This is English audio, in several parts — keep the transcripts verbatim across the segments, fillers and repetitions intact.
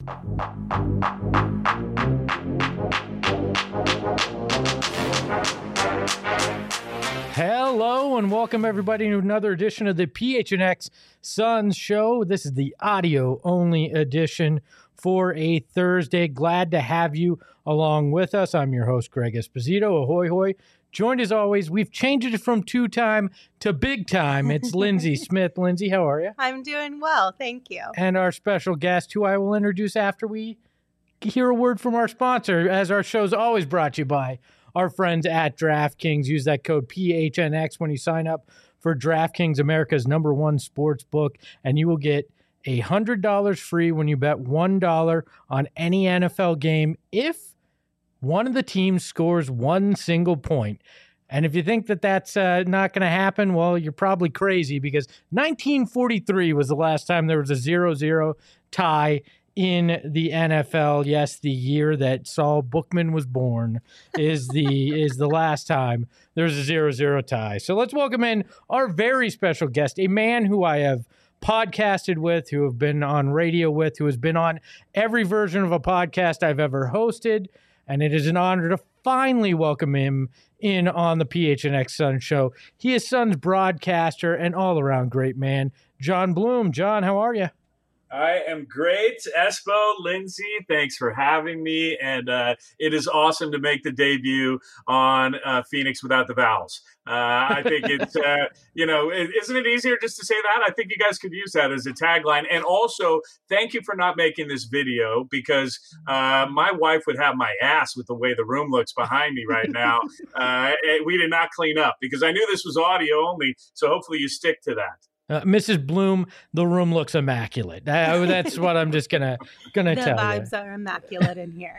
Hello and welcome everybody to another edition of the P H N X Suns Show. This is the audio-only edition for a Thursday. Glad to have you along with us. I'm your host, Greg Esposito. Ahoy, hoy. Joined as always, we've changed it from two-time to big-time. It's Lindsay Smith. Lindsay, how are you? I'm doing well, thank you. And our special guest, who I will introduce after we hear a word from our sponsor, as our show's always brought to you by our friends at DraftKings. Use that code P H N X when you sign up for DraftKings, America's number one sports book, and you will get one hundred dollars free when you bet one dollar on any N F L game if one of the teams scores one single point. And if you think that that's uh, not going to happen, well, you're probably crazy, because nineteen forty-three was the last time there was a zero zero tie in the N F L. Yes, the year that Saul Bookman was born is the is the last time there's a zero zero tie. So let's welcome in our very special guest, a man who I have podcasted with, who have been on radio with, who has been on every version of a podcast I've ever hosted. And it is an honor to finally welcome him in on the P H N X Suns Show. He is Suns broadcaster and all-around great man, Jon Bloom. Jon, how are you? I am great. Espo, Lindsay, thanks for having me. And uh, it is awesome to make the debut on uh, Phoenix Without the Vowels. Uh, I think it's, uh, you know, isn't it easier just to say that? I think you guys could use that as a tagline. And also, thank you for not making this video, because uh, my wife would have my ass with the way the room looks behind me right now. Uh, we did not clean up, because I knew this was audio only. So hopefully you stick to that. Uh, Missus Bloom, the room looks immaculate. Uh, that's what I'm just gonna gonna the tell you. The vibes are immaculate in here.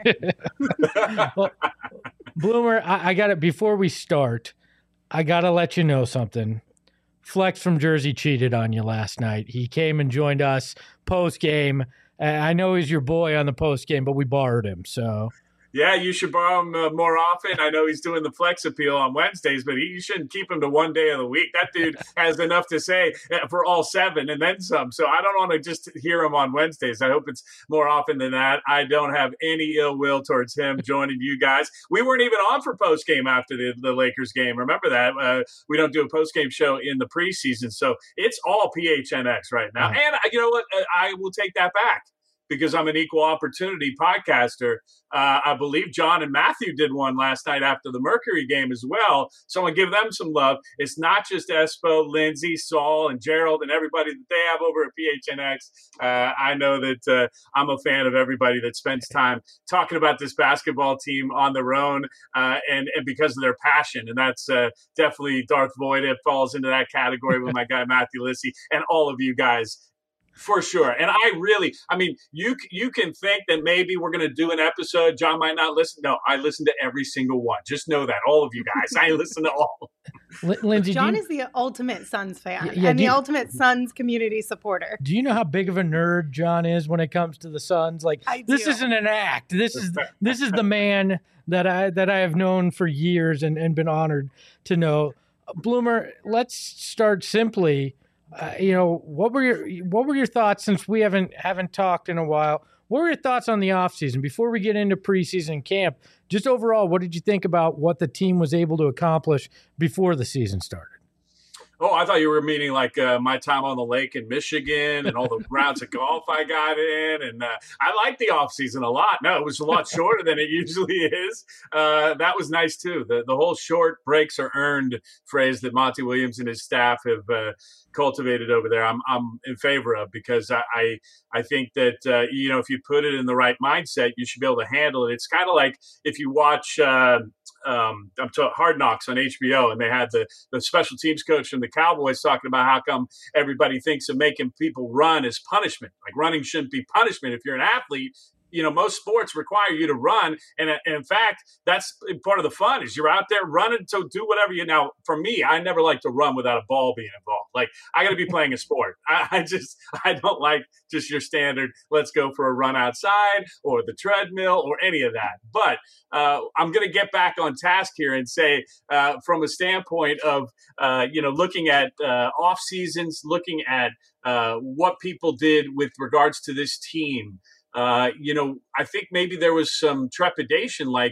Well, Bloomer, I, I got it. Before we start, I gotta let you know something. Flex from Jersey cheated on you last night. He came and joined us post game. Uh, I know he's your boy on the post game, but we borrowed him, so. Yeah, you should borrow him uh, more often. I know he's doing the flex appeal on Wednesdays, but he, you shouldn't keep him to one day of the week. That dude has enough to say for all seven and then some. So I don't want to just hear him on Wednesdays. I hope it's more often than that. I don't have any ill will towards him joining you guys. We weren't even on for post-game after the, the Lakers game. Remember that? Uh, we don't do a post-game show in the preseason. So it's all P H N X right now. Right. And you know what? I will take that back, because I'm an equal opportunity podcaster. Uh, I believe John and Matthew did one last night after the Mercury game as well. So I'm going to give them some love. It's not just Espo, Lindsay, Saul, and Gerald and everybody that they have over at P H N X. Uh, I know that uh, I'm a fan of everybody that spends time talking about this basketball team on their own uh, and, and because of their passion. And that's uh, definitely Darth Voida falls into that category with my guy Matthew Lissy and all of you guys. For sure. And I really, I mean, you you can think that maybe we're going to do an episode. John might not listen. No, I listen to every single one. Just know that. All of you guys. I listen to all. L- Lindsay, John you, is the ultimate Suns fan yeah, and the you, ultimate Suns community supporter. Do you know how big of a nerd John is when it comes to the Suns? Like, I this do. isn't an act. This is this is the man that I that I have known for years and, and been honored to know. Bloomer, let's start simply. Uh, you know, what were your what were your thoughts, since we haven't haven't talked in a while? What were your thoughts on the offseason before we get into preseason camp? Just overall, what did you think about what the team was able to accomplish before the season started? Oh, I thought you were meaning like uh, my time on the lake in Michigan and all the rounds of golf I got in. And uh, I liked the offseason a lot. No, it was a lot shorter than it usually is. Uh, that was nice, too. The the whole short breaks are earned phrase that Monty Williams and his staff have uh, cultivated over there, I'm I'm in favor of, because I I, I think that, uh, you know, if you put it in the right mindset, you should be able to handle it. It's kind of like if you watch uh, um, I'm talking Hard Knocks on H B O, and they had the, the special teams coach from the Cowboys talking about how come everybody thinks of making people run as punishment. Like, running shouldn't be punishment. If you're an athlete, you know, most sports require you to run. And, and in fact, that's part of the fun, is you're out there running to do whatever you, now for me, I never like to run without a ball being involved. Like, I got to be playing a sport. I, I just, I don't like just your standard, let's go for a run outside or the treadmill or any of that. But uh, I'm going to get back on task here and say, uh, from a standpoint of, uh, you know, looking at uh, off seasons, looking at uh, what people did with regards to this team, uh, you know, I think maybe there was some trepidation. Like,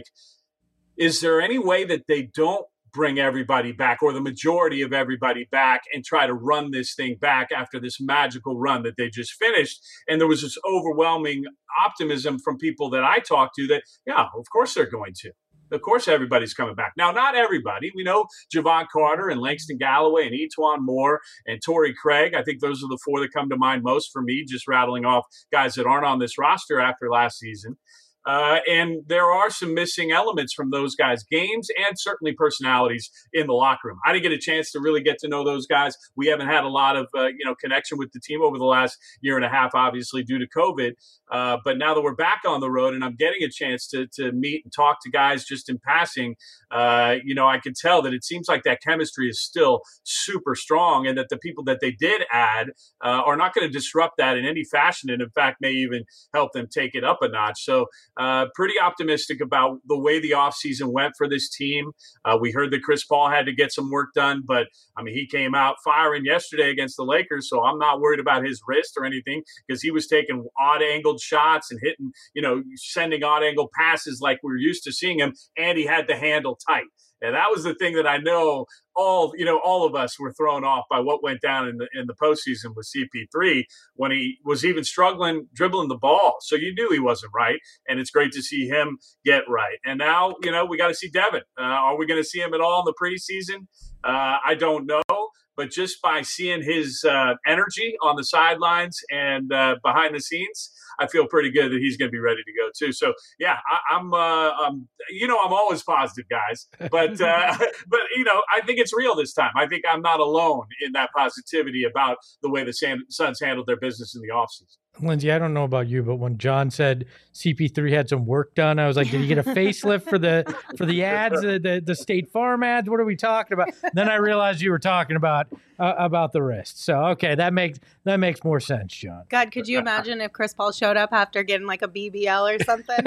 is there any way that they don't bring everybody back, or the majority of everybody back, and try to run this thing back after this magical run that they just finished? And there was this overwhelming optimism from people that I talked to that, yeah, of course they're going to. Of course, everybody's coming back. Now, not everybody. We know Javon Carter and Langston Galloway and Etuan Moore and Torrey Craig. I think those are the four that come to mind most for me, just rattling off guys that aren't on this roster after last season. Uh, and there are some missing elements from those guys' games and certainly personalities in the locker room. I didn't get a chance to really get to know those guys. We haven't had a lot of uh, you know connection with the team over the last year and a half, obviously due to COVID. Uh, but now that we're back on the road and I'm getting a chance to to meet and talk to guys just in passing, uh, you know, I can tell that it seems like that chemistry is still super strong, and that the people that they did add uh, are not going to disrupt that in any fashion, and in fact may even help them take it up a notch. So Uh, pretty optimistic about the way the offseason went for this team. Uh, we heard that Chris Paul had to get some work done, but, I mean, he came out firing yesterday against the Lakers, so I'm not worried about his wrist or anything, because he was taking odd-angled shots and hitting, you know, sending odd-angled passes like we were used to seeing him, and he had the handle tight. And that was the thing that I know all, you know, all of us were thrown off by what went down in the in the postseason with C P three when he was even struggling dribbling the ball. So you knew he wasn't right, and it's great to see him get right. And now, you know, we got to see Devin. Uh, are we going to see him at all in the preseason? Uh, I don't know. But just by seeing his uh, energy on the sidelines and uh, behind the scenes, I feel pretty good that he's going to be ready to go too. So yeah, I, I'm, uh, I'm, you know, I'm always positive, guys. But uh, but you know, I think it's real this time. I think I'm not alone in that positivity about the way the Suns handled their business in the offseason. Lindsay, I don't know about you, but when John said C P three had some work done, I was like, did he get a facelift for the for the ads, the, the the State Farm ads? What are we talking about? Then I realized you were talking about uh, about the wrist. So okay, that makes that makes more sense, John. God, could you imagine if Chris Paul showed up after getting like a B B L or something?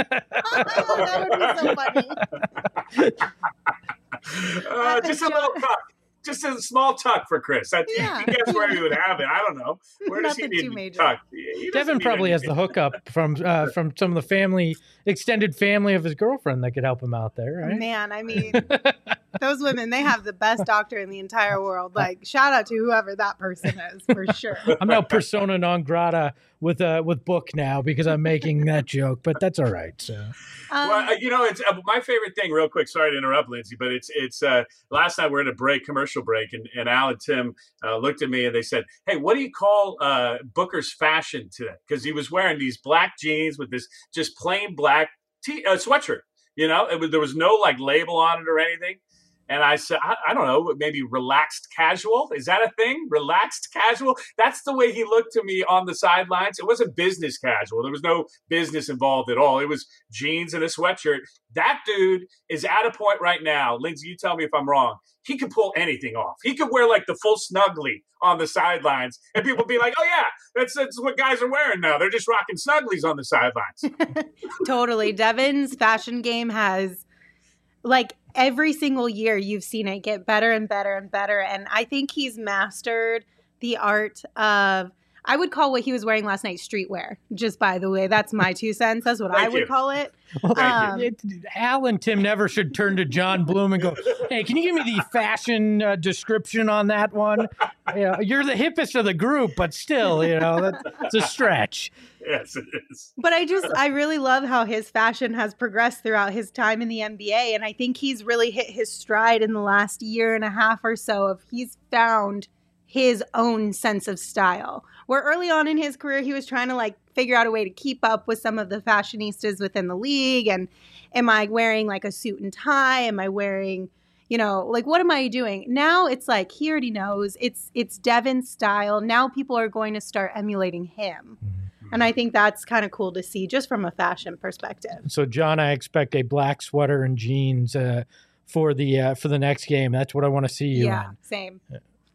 Oh, that would be so funny. uh, just a little tuck. Just a small tuck for Chris. I, Yeah. I guess where he would have it. I don't know. Where does Nothing he too need major. tuck? He doesn't Devin need probably has anything. the hookup from uh, from some of the family, extended family of his girlfriend that could help him out there, right? Man, I mean, those women, they have the best doctor in the entire world. Like, shout out to whoever that person is, for sure. I'm now persona non grata with uh, with Book now because I'm making that joke, but that's all right. So. Um, Well, uh, you know, it's uh, my favorite thing. Real quick, sorry to interrupt, Lindsay, but it's it's. Uh, last night we're in a break, commercial break, and, and Al and Tim uh, looked at me and they said, "Hey, what do you call uh, Booker's fashion today?" Because he was wearing these black jeans with this just plain black t- uh, sweatshirt. You know, it was, there was no like label on it or anything. And I said, I, I don't know, maybe relaxed casual. Is that a thing? Relaxed casual? That's the way he looked to me on the sidelines. It wasn't business casual. There was no business involved at all. It was jeans and a sweatshirt. That dude is at a point right now. Lindsay, you tell me if I'm wrong. He could pull anything off. He could wear like the full snuggly on the sidelines. And people be like, oh, yeah, that's, that's what guys are wearing now. They're just rocking snugglies on the sidelines. Totally. Devin's fashion game has, like, every single year you've seen it get better and better and better. And I think he's mastered the art of, I would call what he was wearing last night streetwear, just by the way. That's my two cents. That's what Thank I would you. call it. Thank Um, It, Al and Tim never should turn to John Bloom and go, hey, can you give me the fashion uh, description on that one? You know, you're the hippest of the group, but still, you know, that, it's a stretch. Yes, it is. But I just, I really love how his fashion has progressed throughout his time in the N B A. And I think he's really hit his stride in the last year and a half or so of he's found his own sense of style. Where early on in his career, he was trying to like figure out a way to keep up with some of the fashionistas within the league. And am I wearing like a suit and tie? Am I wearing, you know, like, what am I doing? Now it's like, he already knows it's, it's Devin's style. Now people are going to start emulating him. And I think that's kind of cool to see just from a fashion perspective. So, John, I expect a black sweater and jeans uh, for the uh, for the next game. That's what I want to see you Yeah, in. same.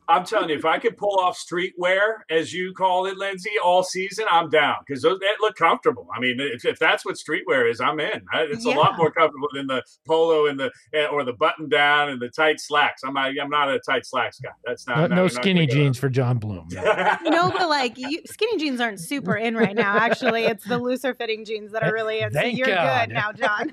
I'm telling you, if I could pull off streetwear, as you call it, Lindsay, all season, I'm down because those they look comfortable. I mean, if, if that's what streetwear is, I'm in. It's yeah. a lot more comfortable than the polo and the or the button down and the tight slacks. I'm not, I'm not a tight slacks guy. That's not no, not, no not skinny jeans for John Bloom. No, but like you, skinny jeans aren't super in right now. Actually, it's the looser fitting jeans that are really in. So you're God. good now, John.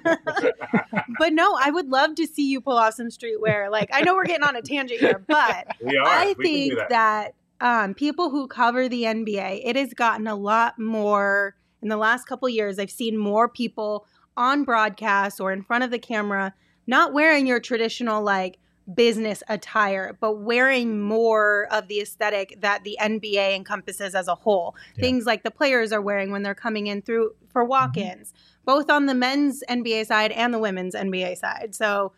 But no, I would love to see you pull off some streetwear. Like I know we're getting on a tangent here, but we are. I we think that, that um, people who cover the N B A, it has gotten a lot more in the last couple of years. I've seen more people on broadcast or in front of the camera, not wearing your traditional like business attire, but wearing more of the aesthetic that the N B A encompasses as a whole. Yeah. Things like the players are wearing when they're coming in through for walk-ins, mm-hmm. both on the men's N B A side and the women's N B A side. So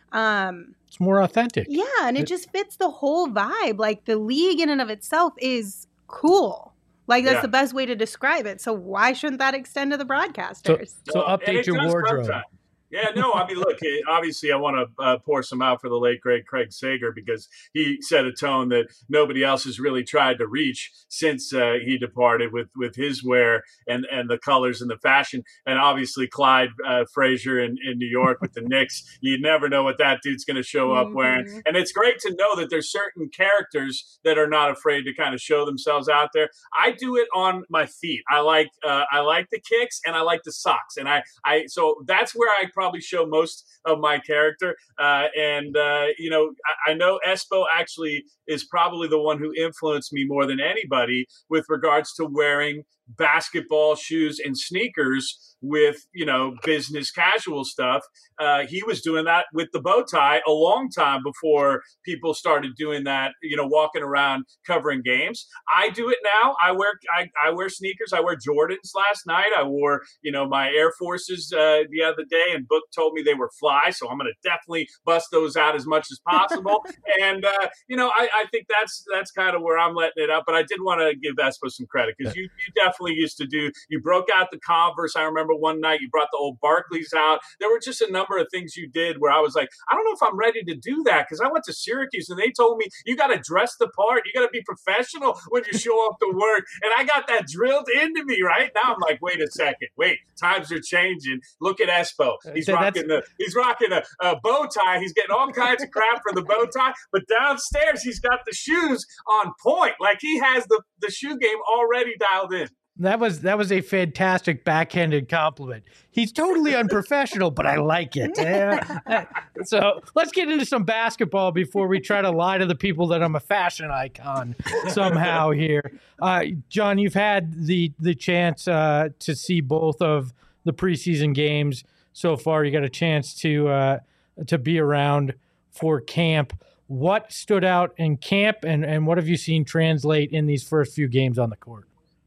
um, it's more authentic. Yeah, and it, it just fits the whole vibe. Like the league in and of itself is cool. Like that's yeah. the best way to describe it. So why shouldn't that extend to the broadcasters? So, so update your wardrobe. Sometimes. Yeah, no, I mean, look, obviously I want to uh, pour some out for the late, great Craig Sager because he set a tone that nobody else has really tried to reach since uh, he departed with, with his wear and, and the colors and the fashion. And obviously Clyde uh, Frazier in, in New York with the Knicks, you never know what that dude's going to show up mm-hmm. wearing. And it's great to know that there's certain characters that are not afraid to kind of show themselves out there. I do it on my feet. I like uh, I like the kicks and I like the socks. And I, I so that's where I probably show most of my character. Uh, and, uh, you know, I, I know Espo actually is probably the one who influenced me more than anybody with regards to wearing basketball shoes and sneakers with, you know, business casual stuff. Uh, he was doing that with the bow tie a long time before people started doing that, you know, walking around covering games. I do it now. I wear I, I wear sneakers. I wear Jordans last night. I wore, you know, my Air Forces uh, the other day, and Book told me they were fly, so I'm going to definitely bust those out as much as possible. and, uh, you know, I, I think that's that's kind of where I'm letting it up. But I did want to give Espo some credit because you, you definitely used to do, you broke out the Converse. I remember one night you brought the old Barclays out. There were just a number of things you did where I was like, I don't know if I'm ready to do that because I went to Syracuse and they told me you got to dress the part. You got to be professional when you show up to work. And I got that drilled into me, right? Now I'm like, wait a second. Wait, times are changing. Look at Espo. He's That's- rocking the he's rocking a, a bow tie. He's getting all kinds of crap for the bow tie. But downstairs, he's got the shoes on point. Like he has the, the shoe game already dialed in. That was that was a fantastic backhanded compliment. He's totally unprofessional, but I like it. Yeah. So let's get into some basketball before we try to lie to the people that I'm a fashion icon somehow here. Uh, John, you've had the the chance uh, to see both of the preseason games so far. You got a chance to uh, to be around for camp. What stood out in camp, and, and what have you seen translate in these first few games on the court?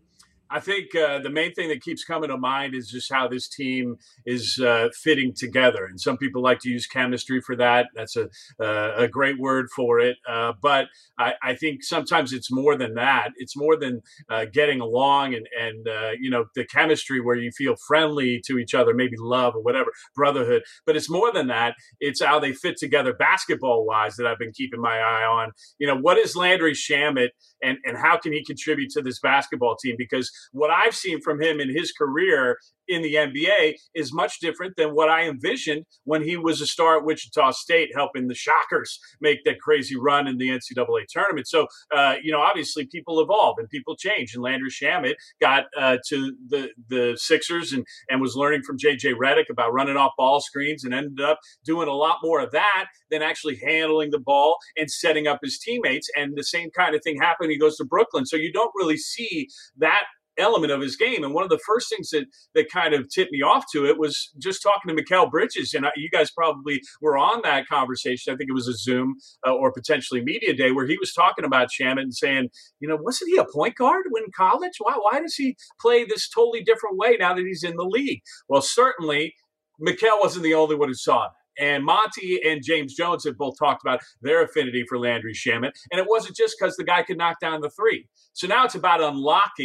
I think uh, the main thing that keeps coming to mind is just how this team is uh, fitting together. And some people like to use chemistry for that. That's a uh, a great word for it. Uh, but I, I think sometimes it's more than that. It's more than uh, getting along and, and uh, you know, the chemistry where you feel friendly to each other, maybe love or whatever, brotherhood. But it's more than that. It's how they fit together basketball-wise that I've been keeping my eye on. You know, what is Landry Shamet and, and how can he contribute to this basketball team? Because what I've seen from him in his career in the N B A is much different than what I envisioned when he was a star at Wichita State, helping the Shockers make that crazy run in the N C double A tournament. So, uh, you know, obviously people evolve and people change. And Landry Shamet got uh, to the the Sixers and, and was learning from J J Redick about running off ball screens and ended up doing a lot more of that than actually handling the ball and setting up his teammates. And the same kind of thing happened. He goes to Brooklyn. So you don't really see that element of his game. And one of the first things that that kind of tipped me off to it was just talking to Mikal Bridges. And I, you guys probably were on that conversation. I think it was a Zoom uh, or potentially media day where he was talking about Shamet and saying, you know, wasn't he a point guard when in college? Why, why does he play this totally different way now that he's in the league? Well, certainly Mikal wasn't the only one who saw that. And Monty and James Jones have both talked about their affinity for Landry Shamet. And it wasn't just because the guy could knock down the three. So now it's about unlocking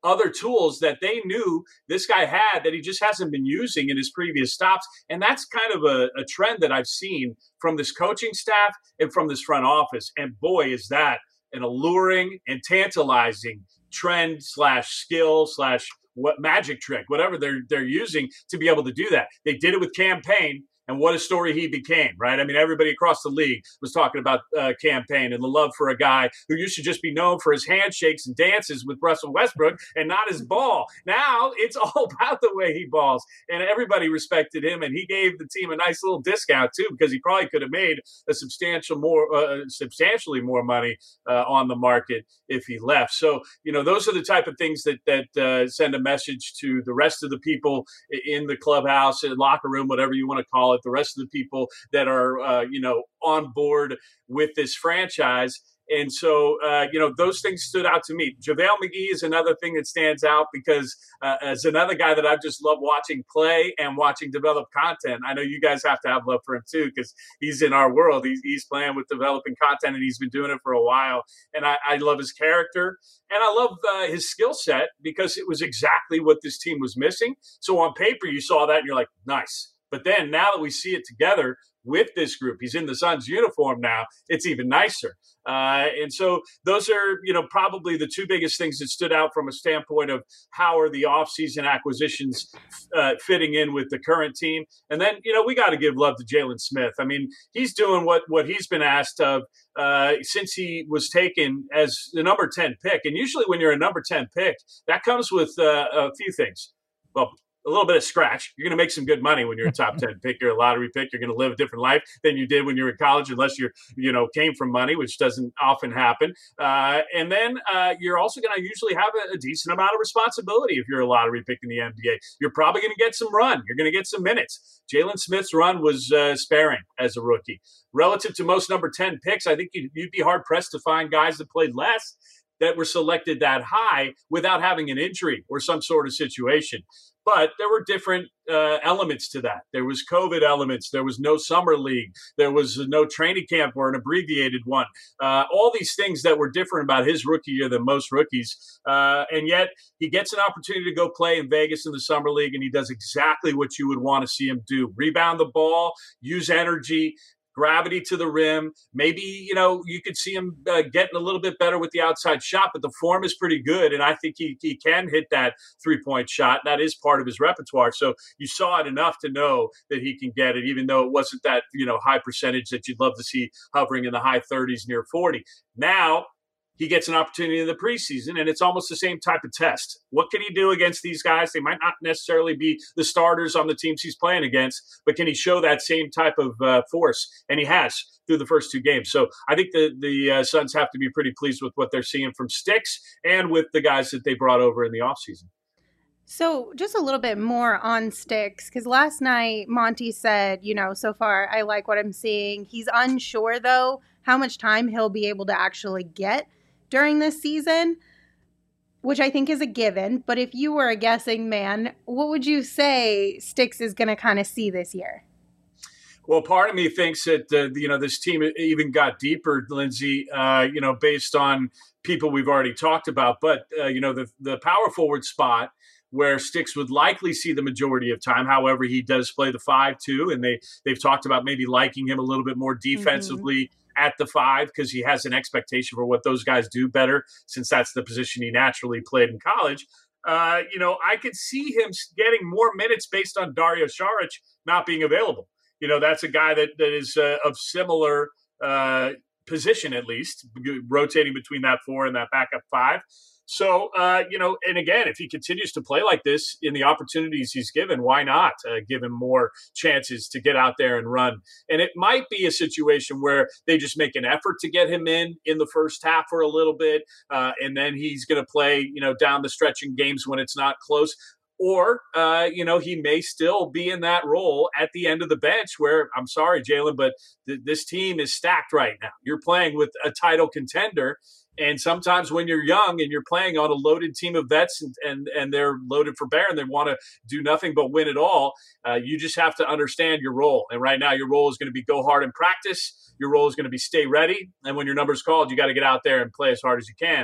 other tools that they knew this guy had that he just hasn't been using in his previous stops. And that's kind of a, a trend that I've seen from this coaching staff and from this front office. And boy, is that an alluring and tantalizing trend slash skill slash what magic trick, whatever they're they're using to be able to do that. They did it with Cam Payne. And what a story he became, right? I mean, everybody across the league was talking about uh, Cam Payne and the love for a guy who used to just be known for his handshakes and dances with Russell Westbrook and not his ball. Now it's all about the way he balls. And everybody respected him, and he gave the team a nice little discount, too, because he probably could have made a substantial more, uh, substantially more money uh, on the market if he left. So, you know, those are the type of things that, that uh, send a message to the rest of the people in the clubhouse, in the locker room, whatever you want to call it. The rest of the people that are, uh, you know, on board with this franchise. And so, uh, you know, those things stood out to me. JaVale McGee is another thing that stands out because uh, as another guy that I just love watching play and watching develop content. I know you guys have to have love for him too because he's in our world. He's, he's playing with developing content and he's been doing it for a while. And I, I love his character and I love uh, his skill set because it was exactly what this team was missing. So on paper, you saw that and you're like, nice. But then now that we see it together with this group, he's in the Suns uniform now, it's even nicer. Uh, and so those are, you know, probably the two biggest things that stood out from a standpoint of how are the offseason acquisitions uh, fitting in with the current team. And then, you know, we got to give love to Jalen Smith. I mean, he's doing what, what he's been asked of uh, since he was taken as the number ten pick. And usually when you're a number ten pick, that comes with uh, a few things. Well, a little bit of scratch. You're going to make some good money when you're a top ten pick. You're a lottery pick. You're going to live a different life than you did when you were in college, unless you're, you know, came from money, which doesn't often happen. Uh, and then uh, you're also going to usually have a, a decent amount of responsibility if you're a lottery pick in the N B A. You're probably going to get some run. You're going to get some minutes. Jalen Smith's run was uh, sparing as a rookie. Relative to most number ten picks, I think you'd, you'd be hard-pressed to find guys that played less that were selected that high without having an injury or some sort of situation. But there were different uh, elements to that. There was COVID elements. There was no summer league. There was no training camp or an abbreviated one. Uh, all these things that were different about his rookie year than most rookies. Uh, and yet he gets an opportunity to go play in Vegas in the summer league, and he does exactly what you would want to see him do. Rebound the ball, use energy, gravity to the rim. Maybe, you know, you could see him uh, getting a little bit better with the outside shot, but the form is pretty good. And I think he, he can hit that three-point shot. That is part of his repertoire. So you saw it enough to know that he can get it, even though it wasn't that, you know, high percentage that you'd love to see hovering in the high thirties, near forty. Now, he gets an opportunity in the preseason, and it's almost the same type of test. What can he do against these guys? They might not necessarily be the starters on the teams he's playing against, but can he show that same type of uh, force? And he has through the first two games. So I think the, the uh, Suns have to be pretty pleased with what they're seeing from Sticks and with the guys that they brought over in the offseason. So just a little bit more on Sticks, because last night Monty said, you know, so far I like what I'm seeing. He's unsure, though, how much time he'll be able to actually get during this season, which I think is a given. But if you were a guessing man, what would you say Sticks is going to kind of see this year? Well, part of me thinks that, uh, you know, this team even got deeper, Lindsay, uh, you know, based on people we've already talked about. But, uh, you know, the, the power forward spot where Sticks would likely see the majority of time. However, he does play the five, too. And they, they've talked about maybe liking him a little bit more defensively. Mm-hmm. At the five, because he has an expectation for what those guys do better, since that's the position he naturally played in college. Uh, you know, I could see him getting more minutes based on Dario Saric not being available. You know, that's a guy that, that is uh, of similar uh, position, at least, rotating between that four and that backup five. So, uh, you know, and again, if he continues to play like this in the opportunities he's given, why not uh, give him more chances to get out there and run? And it might be a situation where they just make an effort to get him in in the first half for a little bit, uh, and then he's going to play, you know, down the stretch in games when it's not close. Or, uh, you know, he may still be in that role at the end of the bench where, I'm sorry, Jalen, but th- this team is stacked right now. You're playing with a title contender. And sometimes when you're young and you're playing on a loaded team of vets and and, and they're loaded for bear and they want to do nothing but win it all, uh, you just have to understand your role. And right now your role is going to be go hard in practice. Your role is going to be stay ready. And when your number's called, you got to get out there and play as hard as you can.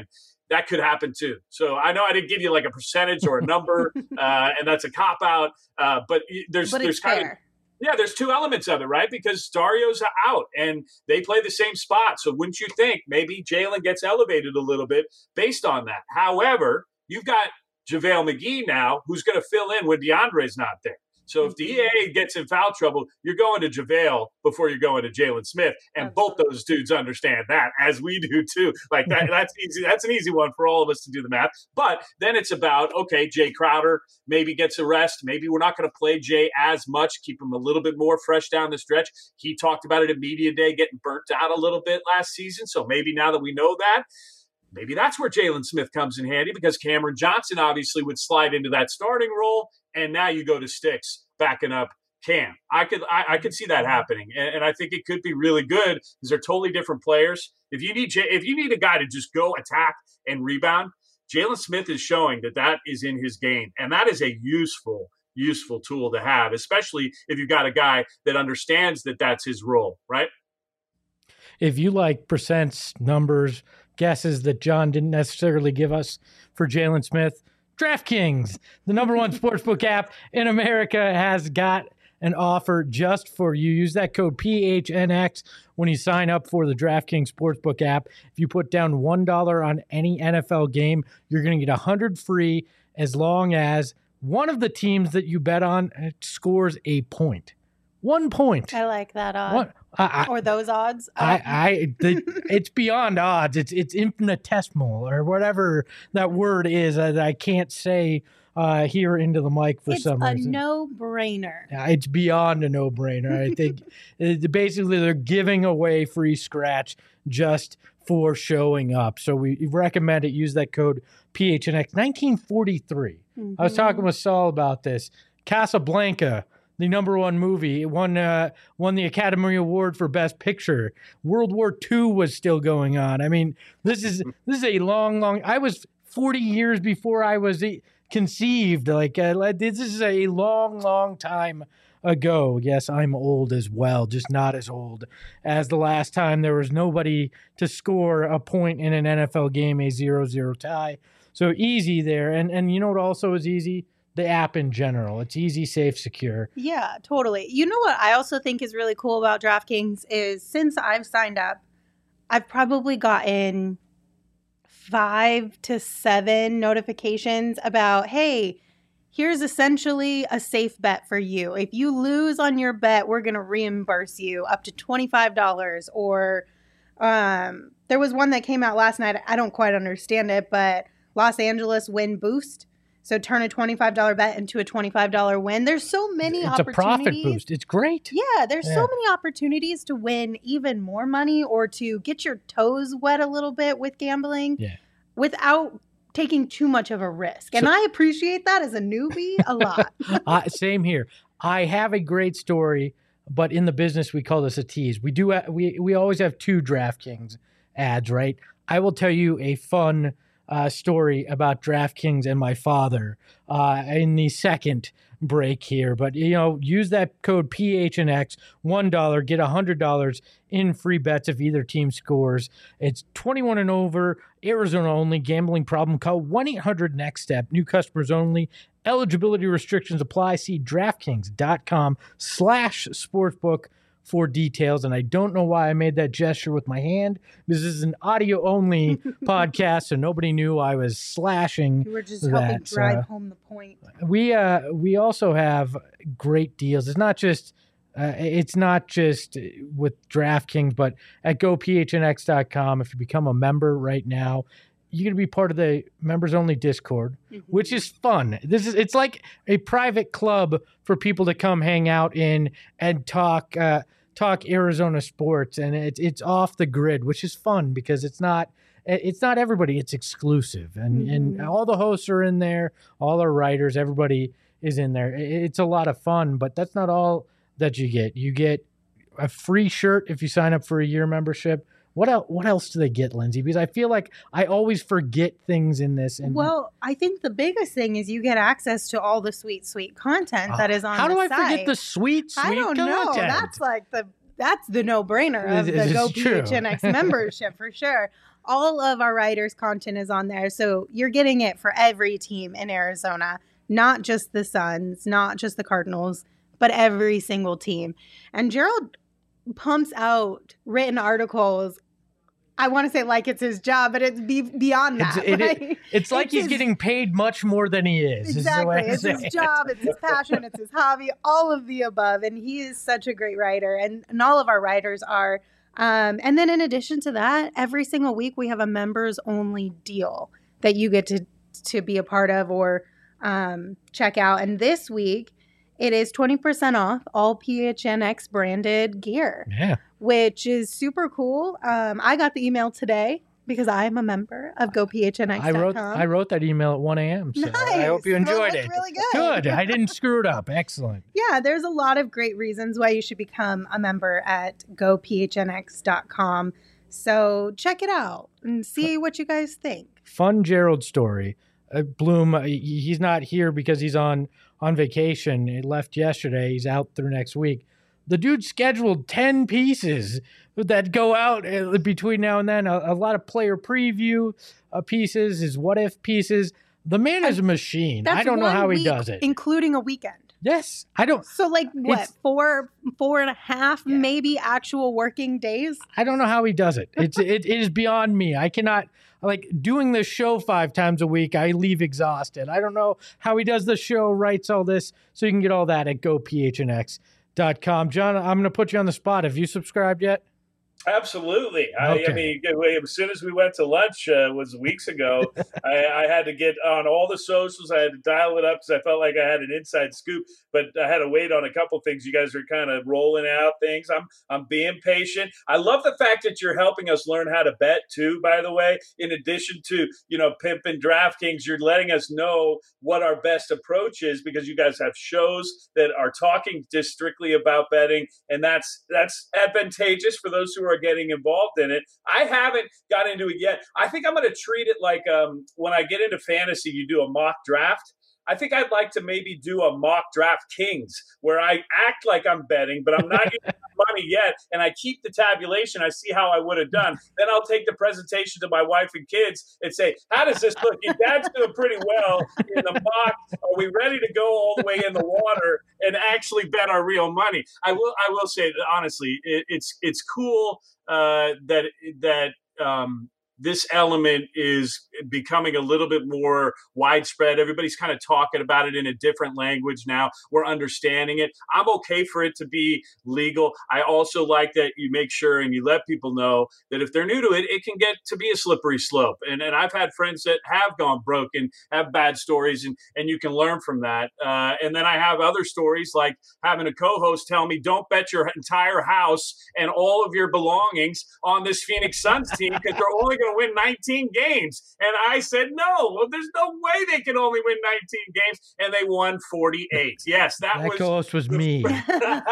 that could happen too. So I know I didn't give you like a percentage or a number, uh, and that's a cop out. Uh, but there's but there's kind fair. of yeah, there's two elements of it, right? Because Dario's out and they play the same spot. So wouldn't you think maybe Jalen gets elevated a little bit based on that? However, you've got JaVale McGee now, who's going to fill in when DeAndre's not there. So if D A gets in foul trouble, you're going to JaVale before you're going to Jalen Smith. And Absolutely. Both those dudes understand that, as we do too. Like that, that's easy. That's an easy one for all of us to do the math. But then it's about, okay, Jay Crowder maybe gets a rest. Maybe we're not going to play Jay as much, keep him a little bit more fresh down the stretch. He talked about it at Media Day, getting burnt out a little bit last season. So maybe now that we know that, maybe that's where Jalen Smith comes in handy, because Cameron Johnson obviously would slide into that starting role. And now you go to Sticks backing up Cam. I could I, I could see that happening, and, and I think it could be really good because they're totally different players. If you need if you need a guy to just go attack and rebound, Jalen Smith is showing that that is in his game, and that is a useful useful tool to have, especially if you've got a guy that understands that that's his role, right? If you like percents, numbers, guesses that John didn't necessarily give us for Jalen Smith, DraftKings, the number one sportsbook app in America, has got an offer just for you. Use that code P H N X when you sign up for the DraftKings Sportsbook app. If you put down one dollar on any N F L game, you're going to get one hundred dollars free as long as one of the teams that you bet on scores a point. One point. I like that odd. One, I, I, or those odds. I, I the, it's beyond odds. It's it's infinitesimal or whatever that word is that I can't say uh, here into the mic for it's some reason. It's a no-brainer. Yeah, it's beyond a no-brainer. I think it, basically they're giving away free scratch just for showing up. So we recommend it. Use that code P H N X. nineteen forty-three. Mm-hmm. I was talking with Saul about this. Casablanca, the number one movie, it won uh, won the Academy Award for Best Picture. World War Two was still going on. I mean, this is this is a long, long. I was forty years before I was conceived. Like uh, this is a long, long time ago. Yes, I'm old as well, just not as old as the last time there was nobody to score a point in an N F L game, a zero zero tie. So easy there, and and you know what also is easy. The app in general. It's easy, safe, secure. Yeah, totally. You know what I also think is really cool about DraftKings is since I've signed up, I've probably gotten five to seven notifications about, hey, here's essentially a safe bet for you. If you lose on your bet, we're going to reimburse you up to twenty-five dollars. Or um, there was one that came out last night. I don't quite understand it, but Los Angeles win boost. So turn a twenty-five dollars bet into a twenty-five dollars win. There's so many it's opportunities. It's a profit boost. It's great. Yeah, there's yeah. so many opportunities to win even more money or to get your toes wet a little bit with gambling yeah. without taking too much of a risk. And so, I appreciate that as a newbie a lot. uh, same here. I have a great story, but in the business, we call this a tease. We do. Ha- we we always have two DraftKings ads, right? I will tell you a fun Uh, story about DraftKings and my father uh, in the second break here. But, you know, use that code P H N X, one dollar, get one hundred dollars in free bets if either team scores. It's twenty-one and over, Arizona only, gambling problem. Call one eight hundred next step, new customers only. Eligibility restrictions apply. See DraftKings.com slash sportsbook for details. And I don't know why I made that gesture with my hand. This is an audio only podcast, so nobody knew I was slashing. You were just that. helping drive uh, home the point. We uh we also have great deals. It's not just uh, it's not just with DraftKings, but at go P H N X dot com. If you become a member right now, you're going to be part of the members only Discord, mm-hmm. which is fun. This is, it's like a private club for people to come hang out in and talk, uh, talk Arizona sports. And it's, it's off the grid, which is fun because it's not, it's not everybody, it's exclusive. And, mm-hmm. and all the hosts are in there, all our writers, everybody is in there. It's a lot of fun, but that's not all that you get. You get a free shirt if you sign up for a year membership. What else, what else do they get, Lindsay? Because I feel like I always forget things in this. And well, I think the biggest thing is you get access to all the sweet, sweet content uh, that is on how the do I site. forget the sweet, sweet I don't content? know. That's like the that's the no-brainer of the Go P H N X membership for sure. all of our riders' content is on there. So you're getting it for every team in Arizona, not just the Suns, not just the Cardinals, but every single team. And Gerald pumps out written articles. I want to say like it's his job, but it's be beyond that. It's, it, right? it, it's like it's he's his, getting paid much more than he is. Exactly. Is it's his it. job. It's his passion. It's his hobby, all of the above. And he is such a great writer. And, and all of our writers are. Um, and then in addition to that, every single week we have a members only deal that you get to, to be a part of or um, check out. And this week it is twenty percent off all P H N X branded gear, yeah, which is super cool. Um, I got the email today because I am a member of go P H N X dot com. I wrote I wrote that email at one a.m. So nice. I hope you enjoyed well, it. Really good. Good. I didn't screw it up. Excellent. Yeah, there's a lot of great reasons why you should become a member at go P H N X dot com. So check it out and see what you guys think. Fun Gerald story. Uh, Bloom, uh, he's not here because he's on, on vacation. He left yesterday. He's out through next week. The dude scheduled ten pieces that go out uh, between now and then. A, a lot of player preview uh, pieces, his what if pieces. The man is a machine. That's I don't know one how he week, does it. including a weekend. Yes, I don't. So like what, It's- four, four and a half, Yeah. maybe actual working days? I don't know how he does it. It's it, it is beyond me. I cannot like doing this show five times a week. I leave exhausted. I don't know how he does the show, writes all this, so you can get all that at go P H N X dot com. John, I'm going to put you on the spot. Have you subscribed yet? Absolutely. I, Okay. I mean, as soon as we went to lunch uh, was weeks ago, I, I had to get on all the socials. I had to dial it up because I felt like I had an inside scoop, but I had to wait on a couple things. You guys are kind of rolling out things. I'm I'm being patient. I love the fact that you're helping us learn how to bet too, by the way. In addition to, you know, pimping DraftKings, you're letting us know what our best approach is because you guys have shows that are talking just strictly about betting, and that's that's advantageous for those who are getting involved in it. I haven't got into it yet. I think I'm going to treat it like um, when I get into fantasy, you do a mock draft. I think I'd like to maybe do a mock draft Kings where I act like I'm betting, but I'm not using my money yet. And I keep the tabulation. I see how I would have done. Then I'll take the presentation to my wife and kids and say, how does this look? Your dad's doing pretty well in the mock. Are we ready to go all the way in the water and actually bet our real money? I will, I will say that honestly, it, it's, it's cool uh, that, that, um, this element is becoming a little bit more widespread. Everybody's kind of talking about it in a different language now. We're understanding it. I'm okay for it to be legal. I also like that you make sure and you let people know that if they're new to it, it can get to be a slippery slope. And and I've had friends that have gone broke and have bad stories, and, and you can learn from that. Uh, and then I have other stories like having a co-host tell me, don't bet your entire house and all of your belongings on this Phoenix Suns team because they're only going to win nineteen games. And I said, no, well, there's no way they can only win nineteen games. And they won forty-eight. Yes, that, That was. co-host was me. Look,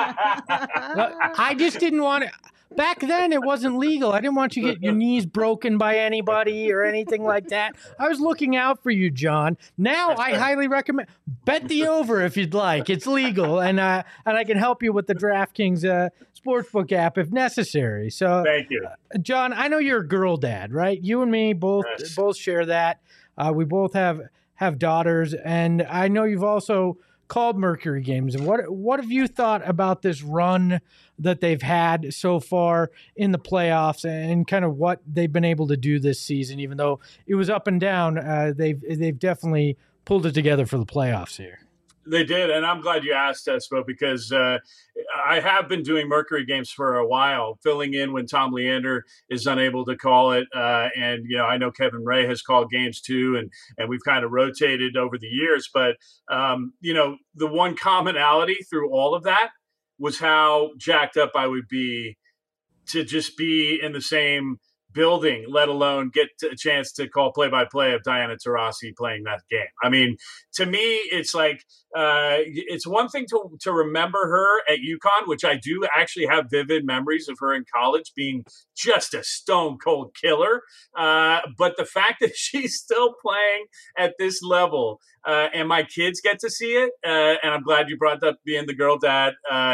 I just didn't want to. Back then, it wasn't legal. I didn't want you to get your knees broken by anybody or anything like that. I was looking out for you, John. Now, I highly recommend bet the over if you'd like. It's legal, and uh, and I can help you with the DraftKings uh, Sportsbook app if necessary. So, Thank you. uh, John, I know you're a girl dad, right? You and me both Yes. both share that. Uh, we both have have daughters, and I know you've also called Mercury games. And what what have you thought about this run that they've had so far in the playoffs and kind of what they've been able to do this season? Even though it was up and down, uh, they've they've definitely pulled it together for the playoffs here. They did, and I'm glad you asked, Espo, because uh, I have been doing Mercury games for a while, filling in when Tom Leander is unable to call it. Uh, and, you know, I know Kevin Ray has called games too, and, and we've kind of rotated over the years. But, um, you know, the one commonality through all of that was how jacked up I would be to just be in the same building, let alone get a chance to call play-by-play of Diana Taurasi playing that game. I mean, to me, it's like uh, it's one thing to to remember her at UConn, which I do actually have vivid memories of her in college being just a stone-cold killer. Uh, but the fact that she's still playing at this level, uh, and my kids get to see it, uh, and I'm glad you brought up being the girl dad, uh,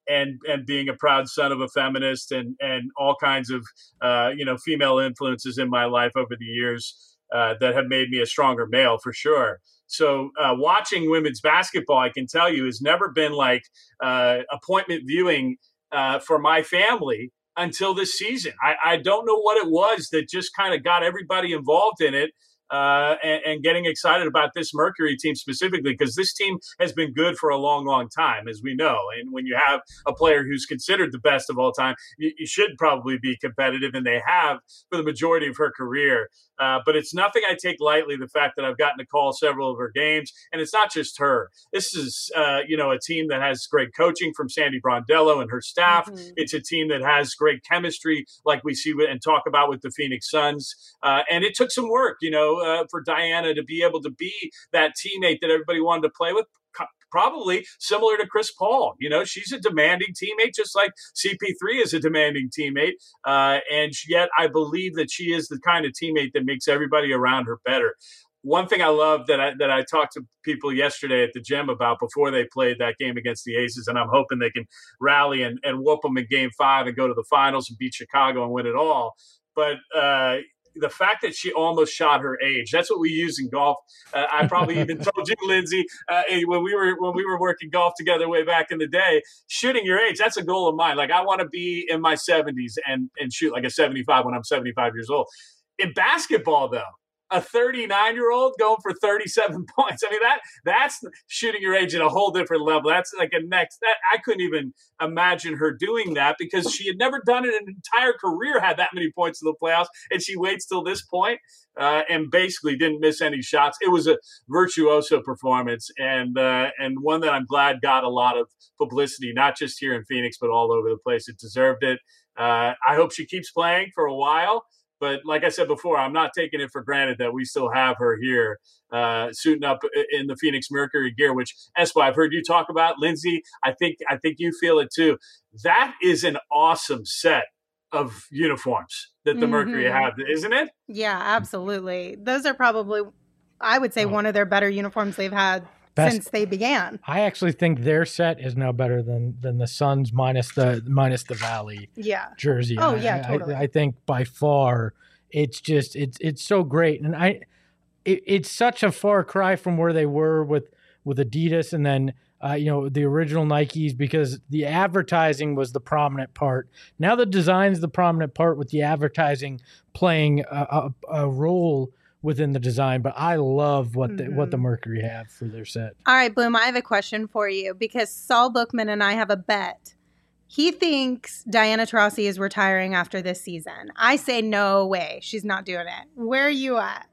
and and being a proud son of a feminist and and all kinds of uh, you know female influences in my life over the years uh, that have made me a stronger male for sure. So uh, watching women's basketball, I can tell you, has never been like uh, appointment viewing uh, for my family until this season. I, I don't know what it was that just kind of got everybody involved in it. Uh, and, and getting excited about this Mercury team specifically, because this team has been good for a long, long time, as we know. And when you have a player who's considered the best of all time, you, you should probably be competitive, and they have for the majority of her career. Uh, but it's nothing I take lightly, the fact that I've gotten to call several of her games. And it's not just her. This is, uh, you know, a team that has great coaching from Sandy Brondello and her staff. Mm-hmm. It's a team that has great chemistry, like we see and talk about with the Phoenix Suns. Uh, and it took some work, you know, uh, for Diana to be able to be that teammate that everybody wanted to play with. Probably similar to Chris Paul. You know, she's a demanding teammate, just like C P three is a demanding teammate. Uh, and yet I believe that she is the kind of teammate that makes everybody around her better. One thing I love that I, that I talked to people yesterday at the gym about before they played that game against the Aces, and I'm hoping they can rally and, and whoop them in game five and go to the finals and beat Chicago and win it all. But, uh, the fact that she almost shot her age, that's what we use in golf. Uh, I probably even told you, Lindsay, uh, when we were when we were working golf together way back in the day, shooting your age, that's a goal of mine. Like, I want to be in my seventies and, and shoot like a seventy-five when I'm seventy-five years old. In basketball, though, a thirty-nine-year-old going for thirty-seven points. I mean, that that's shooting your age at a whole different level. That's like a next – that I couldn't even imagine her doing that, because she had never done it in an entire career, had that many points in the playoffs, and she waits till this point, uh, and basically didn't miss any shots. It was a virtuoso performance, and uh, and one that I'm glad got a lot of publicity, not just here in Phoenix, but all over the place. It deserved it. Uh, I hope she keeps playing for a while. But like I said before, I'm not taking it for granted that we still have her here uh, suiting up in the Phoenix Mercury gear, which, Espo, I've heard you talk about. Lindsay, I think I think you feel it too. That is an awesome set of uniforms that the mm-hmm. Mercury have, isn't it? Yeah, absolutely. Those are probably, I would say, oh. one of their better uniforms they've had Best, since they began. I actually think their set is now better than than the Suns minus the minus the Valley yeah. jersey. Oh I, yeah, totally. I, I think by far it's just it's it's so great, and I it, it's such a far cry from where they were with with Adidas and then uh, you know the original Nikes, because the advertising was the prominent part. Now the design's the prominent part, with the advertising playing a, a, a role within the design. But I love what the, mm-hmm. what the Mercury have for their set. All right, Bloom, I have a question for you, because Saul Bookman and I have a bet. He thinks Diana Taurasi is retiring after this season. I say no way. She's not doing it. Where are you at?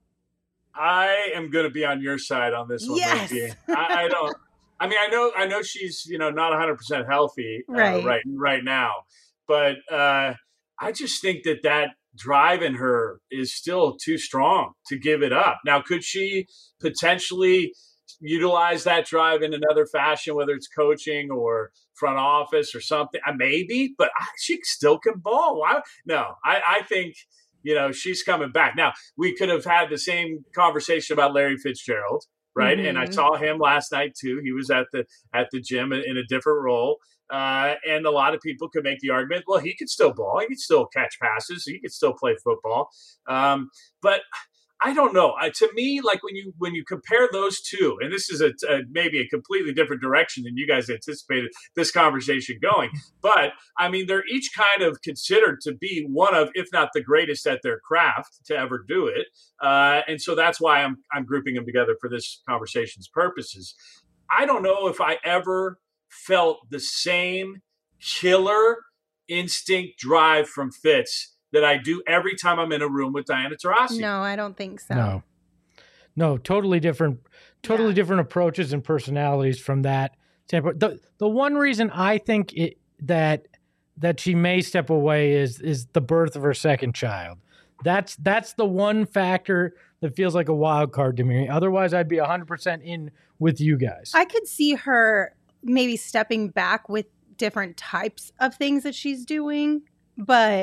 I am going to be on your side on this one. Yes. I, I don't. I mean, I know, I know she's, you know, not one hundred percent healthy uh, right. right, right now, but uh, I just think that that drive in her is still too strong to give it up. Now, could she potentially utilize that drive in another fashion, whether it's coaching or front office or something? Uh, maybe, but she still can ball. Why? No, I, I think, you know, she's coming back. Now, we could have had the same conversation about Larry Fitzgerald, right? Mm-hmm. And I saw him last night too. He was at the at the gym in, in a different role. Uh, and a lot of people could make the argument, well, he could still ball. He could still catch passes. He could still play football. Um, but I don't know. Uh, to me, like when you when you compare those two, and this is a, a maybe a completely different direction than you guys anticipated this conversation going. But, I mean, they're each kind of considered to be one of, if not the greatest at their craft to ever do it. Uh, and so that's why I'm I'm grouping them together for this conversation's purposes. I don't know if I ever felt the same killer instinct drive from Fitz that I do every time I'm in a room with Diana Taurasi. No, I don't think so. No, no, totally different, totally yeah. different approaches and personalities from that standpoint. The the one reason I think it, that that she may step away is is the birth of her second child. That's that's the one factor that feels like a wild card to me. Otherwise, I'd be one hundred percent in with you guys. I could see her maybe stepping back with different types of things that she's doing, but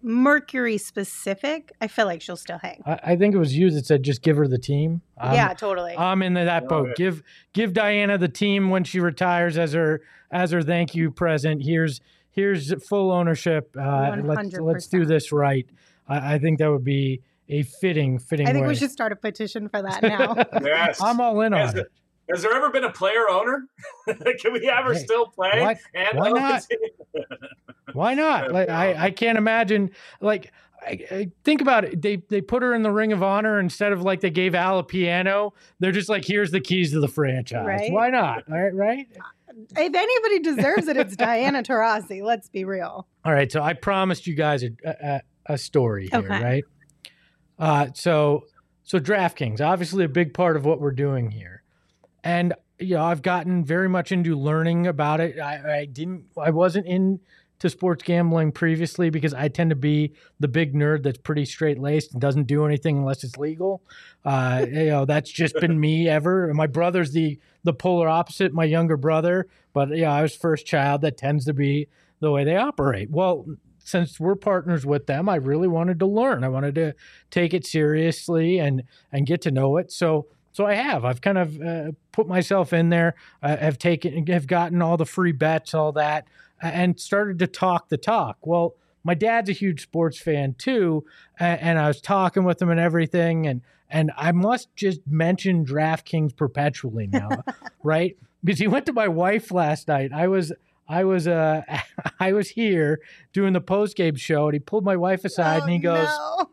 Mercury specific, I feel like she'll still hang. I, I think it was you that said just give her the team. Um, yeah, totally. I'm in that boat. it. Give give Diana the team when she retires as her as her thank you present. Here's here's full ownership. Uh, let's let's do this right. I, I think that would be a fitting fitting. I think way. we should start a petition for that now. Yes. I'm all in Has on it. it. Has there ever been a player owner? Can we have her Hey, still play? why- and why own not? the team? Why not? Like I, I can't imagine. Like I, I think about it. They they put her in the Ring of Honor instead of like they gave Al a piano. They're just like, here's the keys to the franchise. Right. Why not? All right, right. If anybody deserves it, it's Diana Taurasi. Let's be real. All right. So I promised you guys a a, a story here, Okay. right? Uh, so so DraftKings, obviously a big part of what we're doing here, and you know I've gotten very much into learning about it. I, I didn't, I wasn't into sports gambling previously because I tend to be the big nerd that's pretty straight laced and doesn't do anything unless it's legal. Uh, you know that's just been me ever. My brother's the the polar opposite, my younger brother, but yeah, I was first child. That tends to be the way they operate. Well, since we're partners with them, I really wanted to learn. I wanted to take it seriously and and get to know it. So so I have. I've kind of uh, put myself in there. I have taken, have gotten all the free bets, all that, and started to talk the talk. Well, my dad's a huge sports fan too, and, and I was talking with him and everything, and and I must just mention DraftKings perpetually now, right? Because he went to my wife last night. I was. I was uh I was here doing the post game show, and he pulled my wife aside Oh, and he goes, no.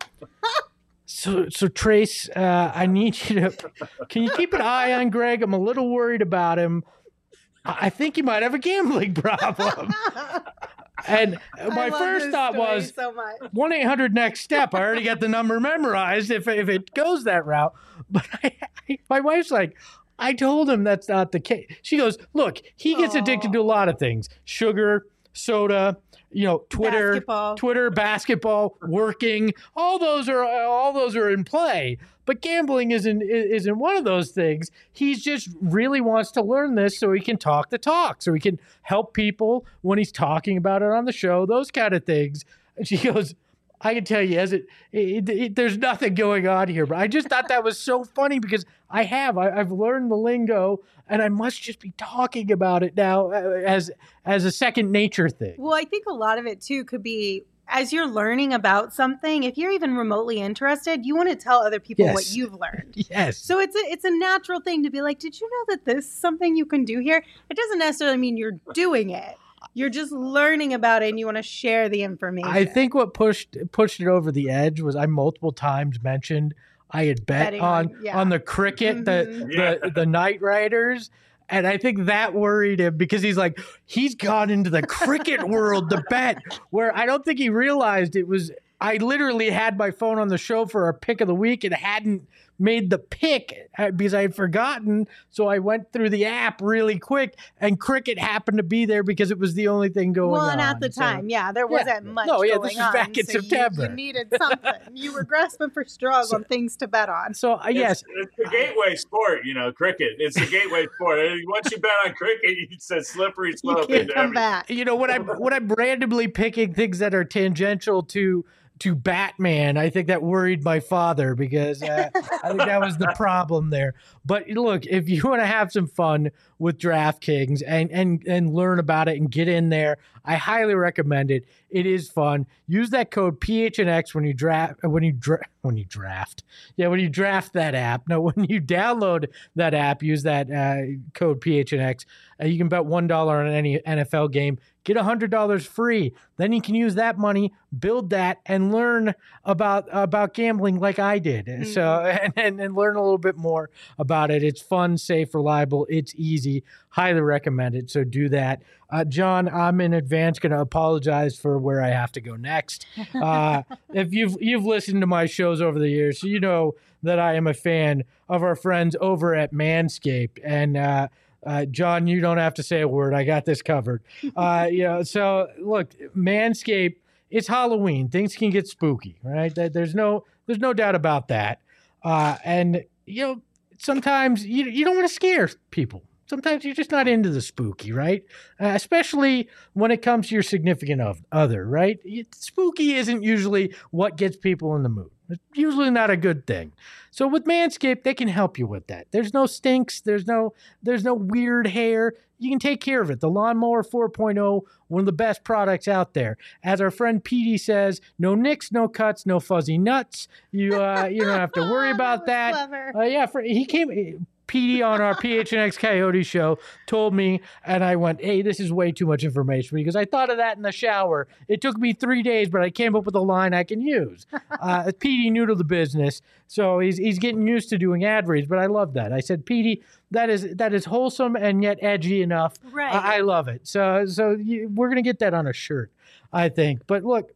"So so Trace, uh, I need you to can you keep an eye on Greg? I'm a little worried about him. I I think he might have a gambling problem." And I my love first this thought story was so much. one eight hundred next step. I already got the number memorized if if it goes that route. But I, I, my wife's like, I told him that's not the case. She goes, look, he gets addicted to a lot of things: sugar, soda, you know, Twitter, Basketball. Twitter, basketball, working. All those are all those are in play. But gambling isn't isn't one of those things. He's just really wants to learn this so he can talk the talk, so he can help people when he's talking about it on the show. Those kind of things. And she goes, I can tell you, as it, it, it, there's nothing going on here. But I just thought that was so funny because I have, I, I've learned the lingo, and I must just be talking about it now as as a second nature thing. Well, I think a lot of it too could be as you're learning about something. If you're even remotely interested, you want to tell other people Yes. what you've learned. Yes. So it's a it's a natural thing to be like, did you know that this is something you can do here? It doesn't necessarily mean you're doing it. You're just learning about it, and you want to share the information. I think what pushed pushed it over the edge was I multiple times mentioned I had bet Betting on on- yeah. on the cricket, Mhm. the, Yeah. the the Night Riders. And I think that worried him because he's like, he's gone into the cricket world to bet, where I don't think he realized it was. I literally had my phone on the show for our pick of the week and hadn't made the pick uh, because I had forgotten. So I went through the app really quick, and cricket happened to be there because it was the only thing going well, on. and at the So- time, yeah, there wasn't much No, yeah, going this was on. back in so you- September. You, needed something. You were grasping for straws So- on things to bet on. So uh, yes, It's, it's the gateway sport, you know, cricket. It's the gateway sport. Once you bet on cricket, it's a slippery You slope can't into come everything. back. you know, when I'm when I'm randomly picking things that are tangential to to Batman, I think that worried my father because uh, I think that was the problem there. But look, if you want to have some fun with DraftKings and and and learn about it and get in there, I highly recommend it. It is fun. Use that code P H N X when you draft when you dra- when you draft. Yeah, when you draft that app. No, when you download that app, use that uh, code P H N X. Uh, you can bet one dollar on any N F L game. Get one hundred dollars free. Then you can use that money, build that, and learn about about gambling like I did. Mm-hmm. So and, and and learn a little bit more about it. It's fun, safe, reliable. It's easy. Highly recommend it. So do that. Uh, John, I'm in advance going to apologize for where I have to go next. Uh, if you've you've listened to my shows over the years, so you know that I am a fan of our friends over at Manscaped. And uh, uh, John, you don't have to say a word. I got this covered. Uh, you know, so look, Manscaped. It's Halloween. Things can get spooky, right? There- There's no there's no doubt about that. Uh, and you know, sometimes you you don't want to scare people. sometimes you're just not into the spooky, right? Uh, especially when it comes to your significant of, other, right? It, spooky isn't usually what gets people in the mood. It's usually not a good thing. So with Manscaped, they can help you with that. There's no stinks. There's no there's no weird hair. You can take care of it. The Lawnmower four point oh, one of the best products out there. As our friend Petey says, no nicks, no cuts, no fuzzy nuts. You uh, you don't have to worry about that. Clever. Uh, yeah, for, he came. Petey on our P H N X Coyote show told me, and I went, hey, this is way too much information because I thought of that in the shower. It took me three days, but I came up with a line I can use. Uh, Petey new to the business, so he's he's getting used to doing ad reads, but I love that. I said, Petey, that is that is wholesome and yet edgy enough. Right. I, I love it. So so you, we're gonna get that on a shirt, I think. But look,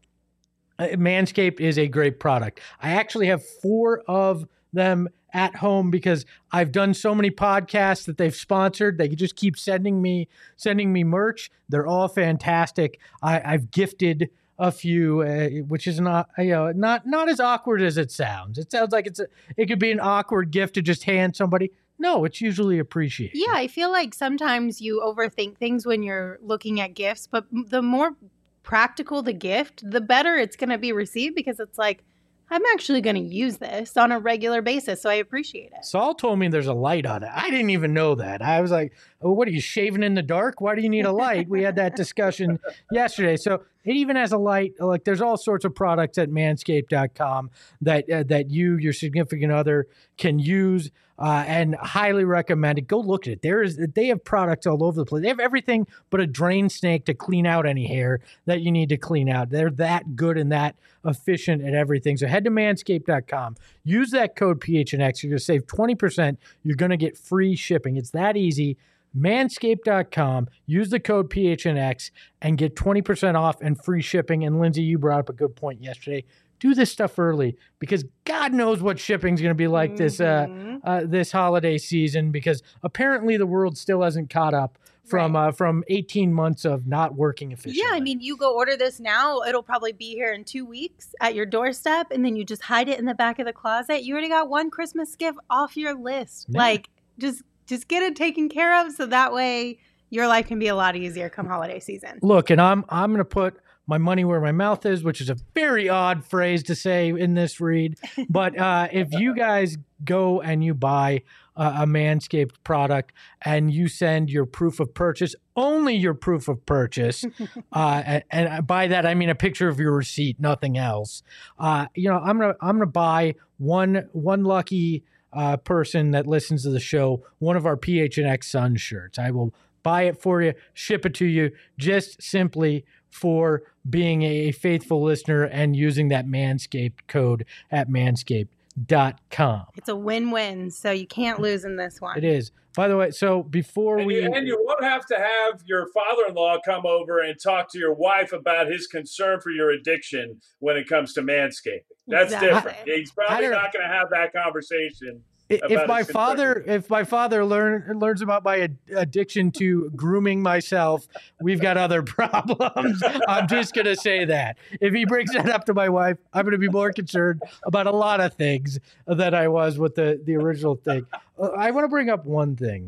Manscaped is a great product. I actually have four of them at home because I've done so many podcasts that they've sponsored. They just keep sending me sending me merch. They're all fantastic. I, I've gifted a few, uh, which is not you know not not as awkward as it sounds. It sounds like it's a, it could be an awkward gift to just hand somebody. No, it's usually appreciated. Yeah, I feel like sometimes you overthink things when you're looking at gifts, but the more practical the gift, the better it's going to be received because it's like, I'm actually going to use this on a regular basis, so I appreciate it. Saul told me there's a light on it. I didn't even know that. I was like, oh, what are you, shaving in the dark? Why do you need a light? We had that discussion yesterday. So it even has a light. Like there's all sorts of products at manscaped dot com that uh, that you, your significant other can use uh, and highly recommend it. Go look at it. There is They have products all over the place. They have everything but a drain snake to clean out any hair that you need to clean out. They're that good and that efficient at everything. So head to manscaped dot com. Use that code P H N X. You're going to save twenty percent. You're going to get free shipping. It's that easy. manscaped dot com. Use the code P H N X and get twenty percent off and free shipping. And Lindsay, you brought up a good point yesterday. Do this stuff early because God knows what shipping's going to be like mm-hmm. this uh, uh, this holiday season because apparently the world still hasn't caught up from right. uh, from eighteen months of not working efficiently. Yeah, I mean, you go order this now, it'll probably be here in two weeks at your doorstep, and then you just hide it in the back of the closet. You already got one Christmas gift off your list. Yeah. Like, just just get it taken care of so that way your life can be a lot easier come holiday season. Look, and I'm I'm going to put my money where my mouth is, which is a very odd phrase to say in this read. But uh, if you guys go and you buy uh, a Manscaped product and you send your proof of purchase, only your proof of purchase, uh, and, and by that I mean a picture of your receipt, nothing else. Uh, you know, I'm gonna I'm gonna buy one one lucky uh, person that listens to the show one of our P H N X Sun shirts. I will buy it for you, ship it to you, just simply for being a faithful listener and using that Manscaped code at manscaped dot com. It's a win-win, so you can't lose in this one. It is. By the way, so before and we... You, and you won't have to have your father-in-law come over and talk to your wife about his concern for your addiction when it comes to manscaping. That's exactly. different. He's probably not going to have that conversation. If my father, if my father learn, learns about my ad- addiction to grooming myself, we've got other problems. I'm just going to say that. If he brings that up to my wife, I'm going to be more concerned about a lot of things than I was with the, the original thing. Uh, I want to bring up one thing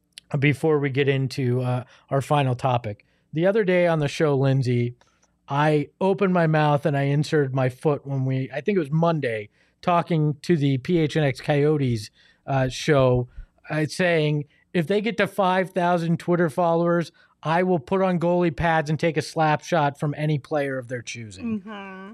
before we get into uh, our final topic. The other day on the show, Lindsay, I opened my mouth and I inserted my foot when we, I think it was Monday, talking to the P H N X Coyotes uh, show, uh, saying, if they get to five thousand Twitter followers, I will put on goalie pads and take a slap shot from any player of their choosing. Mm-hmm.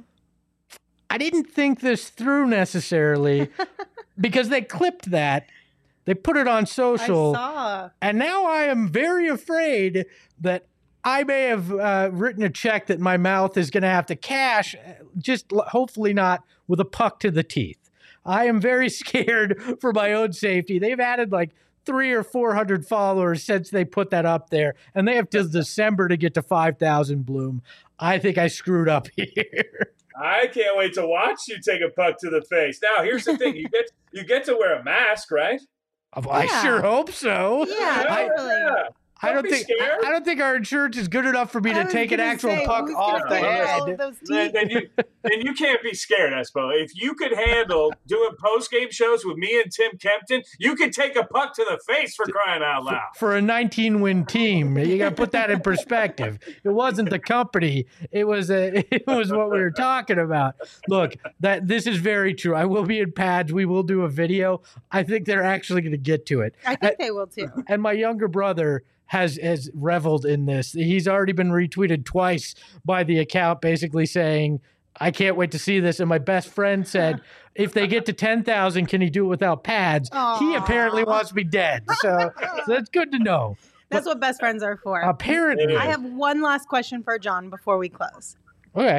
I didn't think this through necessarily because they clipped that. They put it on social. I saw. And now I am very afraid that I may have uh, written a check that my mouth is going to have to cash, just hopefully not with a puck to the teeth. I am very scared for my own safety. They've added like three or four hundred followers since they put that up there, and they have till December to get to five thousand. Bloom. I think I screwed up here. I can't wait to watch you take a puck to the face. Now, here's the thing: you get you get to wear a mask, right? I yeah. sure hope so. Yeah, I, totally. Yeah. I don't be think scared. I don't think our insurance is good enough for me I to was take an gonna actual say, puck who's off gonna the pay for head. all of those Then, teeth? then you then you can't be scared, Espo. If you could handle doing post game shows with me and Tim Kempton, you could take a puck to the face for crying out loud. For a nineteen win team, you got to put that in perspective. It wasn't the company; it was a, it was what we were talking about. Look, that this is very true. I will be in pads. We will do a video. I think they're actually going to get to it. I think they will too. And my younger brother has has reveled in this. He's already been retweeted twice by the account, basically saying, "I can't wait to see this." And my best friend said, "If they get to ten thousand, can he do it without pads?" Aww. He apparently wants me dead. So, so that's good to know. That's what best friends are for. Apparently, I have one last question for John before we close. okay.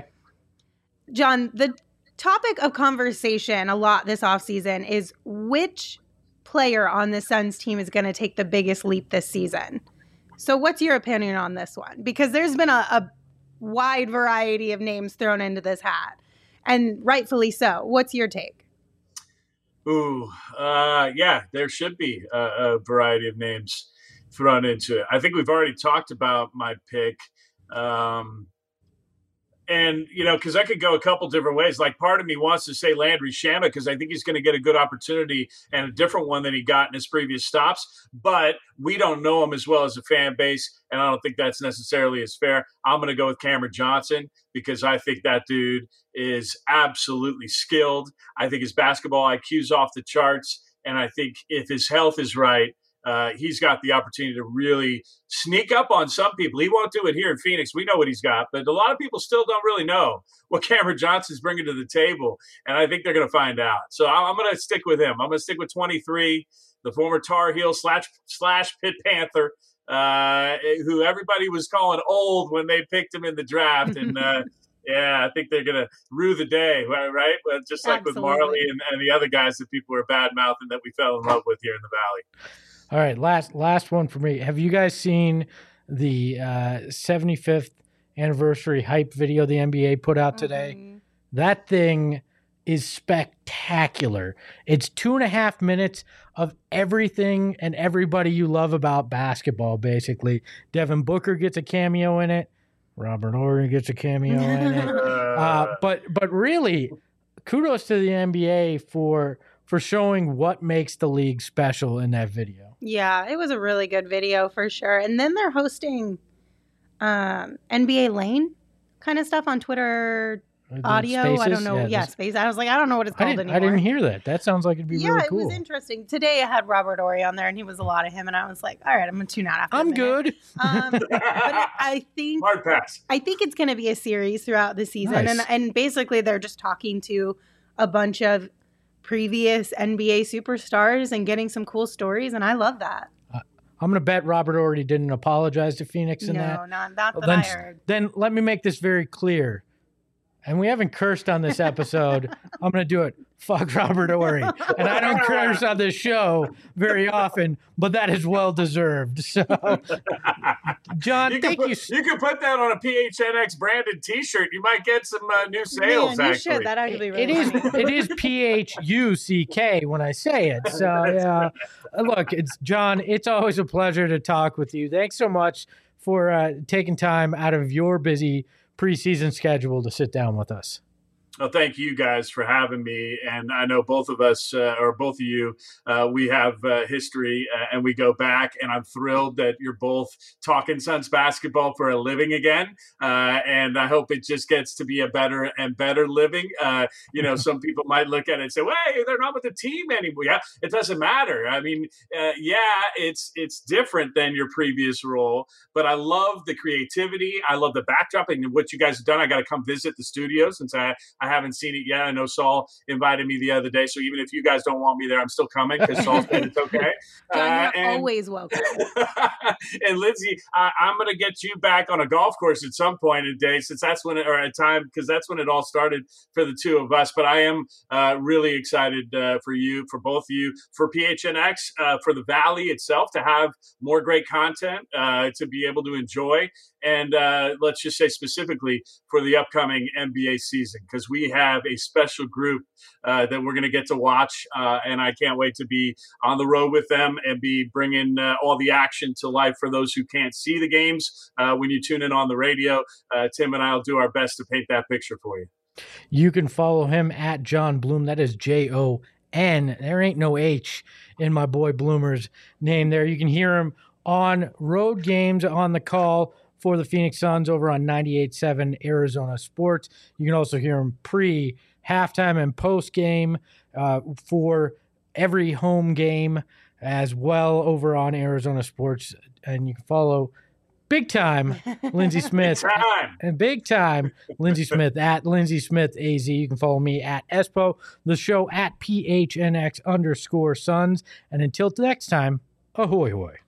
John, the topic of conversation a lot this offseason is which player on the Suns team is going to take the biggest leap this season. So what's your opinion on this one? Because there's been a, a wide variety of names thrown into this hat, and rightfully so. What's your take? Ooh, uh, yeah, there should be a, a variety of names thrown into it. I think we've already talked about my pick. Um, and, you know, because I could go a couple different ways. Like, part of me wants to say Landry Shamet because I think he's going to get a good opportunity and a different one than he got in his previous stops. But we don't know him as well as a fan base, and I don't think that's necessarily as fair. I'm going to go with Cameron Johnson because I think that dude is absolutely skilled. I think his basketball I Q's off the charts, and I think if his health is right, Uh, he's got the opportunity to really sneak up on some people. He won't do it here in Phoenix. We know what he's got, but a lot of people still don't really know what Cameron Johnson's bringing to the table, and I think they're going to find out. So I'm going to stick with him. I'm going to stick with twenty-three, the former Tar Heel slash, slash Pitt Panther, uh, who everybody was calling old when they picked him in the draft, and uh, yeah, I think they're going to rue the day, right? Well, just like Absolutely. with Marley and, and the other guys that people were bad-mouthing that we fell in love with here in the Valley. All right, last last one for me. Have you guys seen the uh, seventy-fifth anniversary hype video the N B A put out today? Mhm. That thing is spectacular. It's two and a half minutes of everything and everybody you love about basketball, basically. Devin Booker gets a cameo in it. Robert Horry gets a cameo in it. Uh, but but really, kudos to the N B A for for showing what makes the league special in that video. Yeah, it was a really good video for sure. And then they're hosting um, N B A Lane kind of stuff on Twitter Uh, the audio. I Spaces? don't know. Yeah, Yeah, this- Space. I was like, I don't know what it's I called didn't, anymore. I didn't hear that. That sounds like it'd be yeah, really it cool. was interesting. Today I had Robert Ory on there, and he was a lot of him, and I was like, all right, I'm gonna tune out after. a I'm minute. good. Um, but I think Hard pass. I think it's going to be a series throughout the season, Nice. and and basically they're just talking to a bunch of previous N B A superstars and getting some cool stories, and I love that. I'm going to bet Robert already didn't apologize to Phoenix in no, that. not not Well, that then, I heard. then let me make this very clear. And we haven't cursed on this episode. I'm going to do it. Fuck Robert Ory. And I don't curse on this show very often, but that is well deserved. So, John, You can, thank put, you. you can put that on a P H N X branded T-shirt. You might get some uh, new sales. Man, you actually, should. That actually really It is funny. it is P H U C K when I say it. So yeah, look, it's John. It's always a pleasure to talk with you. Thanks so much for uh, taking time out of your busy preseason schedule to sit down with us. Well, thank you guys for having me. And I know both of us, uh, or both of you, uh, we have uh, history uh, and we go back. And I'm thrilled that you're both talking Suns basketball for a living again. Uh, and I hope it just gets to be a better and better living. Uh, you know, some people might look at it and say, well, hey, they're not with the team anymore. Yeah, it doesn't matter. I mean, uh, yeah, it's it's different than your previous role. But I love the creativity. I love the backdrop and what you guys have done. I got to come visit the studio since I I haven't seen it yet. I know Saul invited me the other day, so even if you guys don't want me there, I'm still coming because Saul said it's okay. John, Uh, you're and, always welcome. and Lindsay, I, I'm going to get you back on a golf course at some point in the day, since that's when it, or a time, because that's when it all started for the two of us. But I am uh, really excited uh, for you, for both of you, for P H N X, uh, for the Valley itself to have more great content uh, to be able to enjoy. And uh, let's just say specifically for the upcoming N B A season, because we we have a special group uh, that we're going to get to watch, uh, and I can't wait to be on the road with them and be bringing uh, all the action to life for those who can't see the games. Uh, when you tune in on the radio, uh, Tim and I will do our best to paint that picture for you. You can follow him at Jon Bloom. That is J O N. There ain't no H in my boy Bloomer's name there. You can hear him on road games on the call for the Phoenix Suns over on ninety-eight point seven Arizona Sports. You can also hear him pre, halftime, and post-game uh, for every home game as well over on Arizona Sports. And you can follow big time Lindsey Smith. Big time. And big time Lindsey Smith at Lindsey Smith A Z. You can follow me at Espo, the show at P H N X underscore Suns. And until next time, ahoy hoy.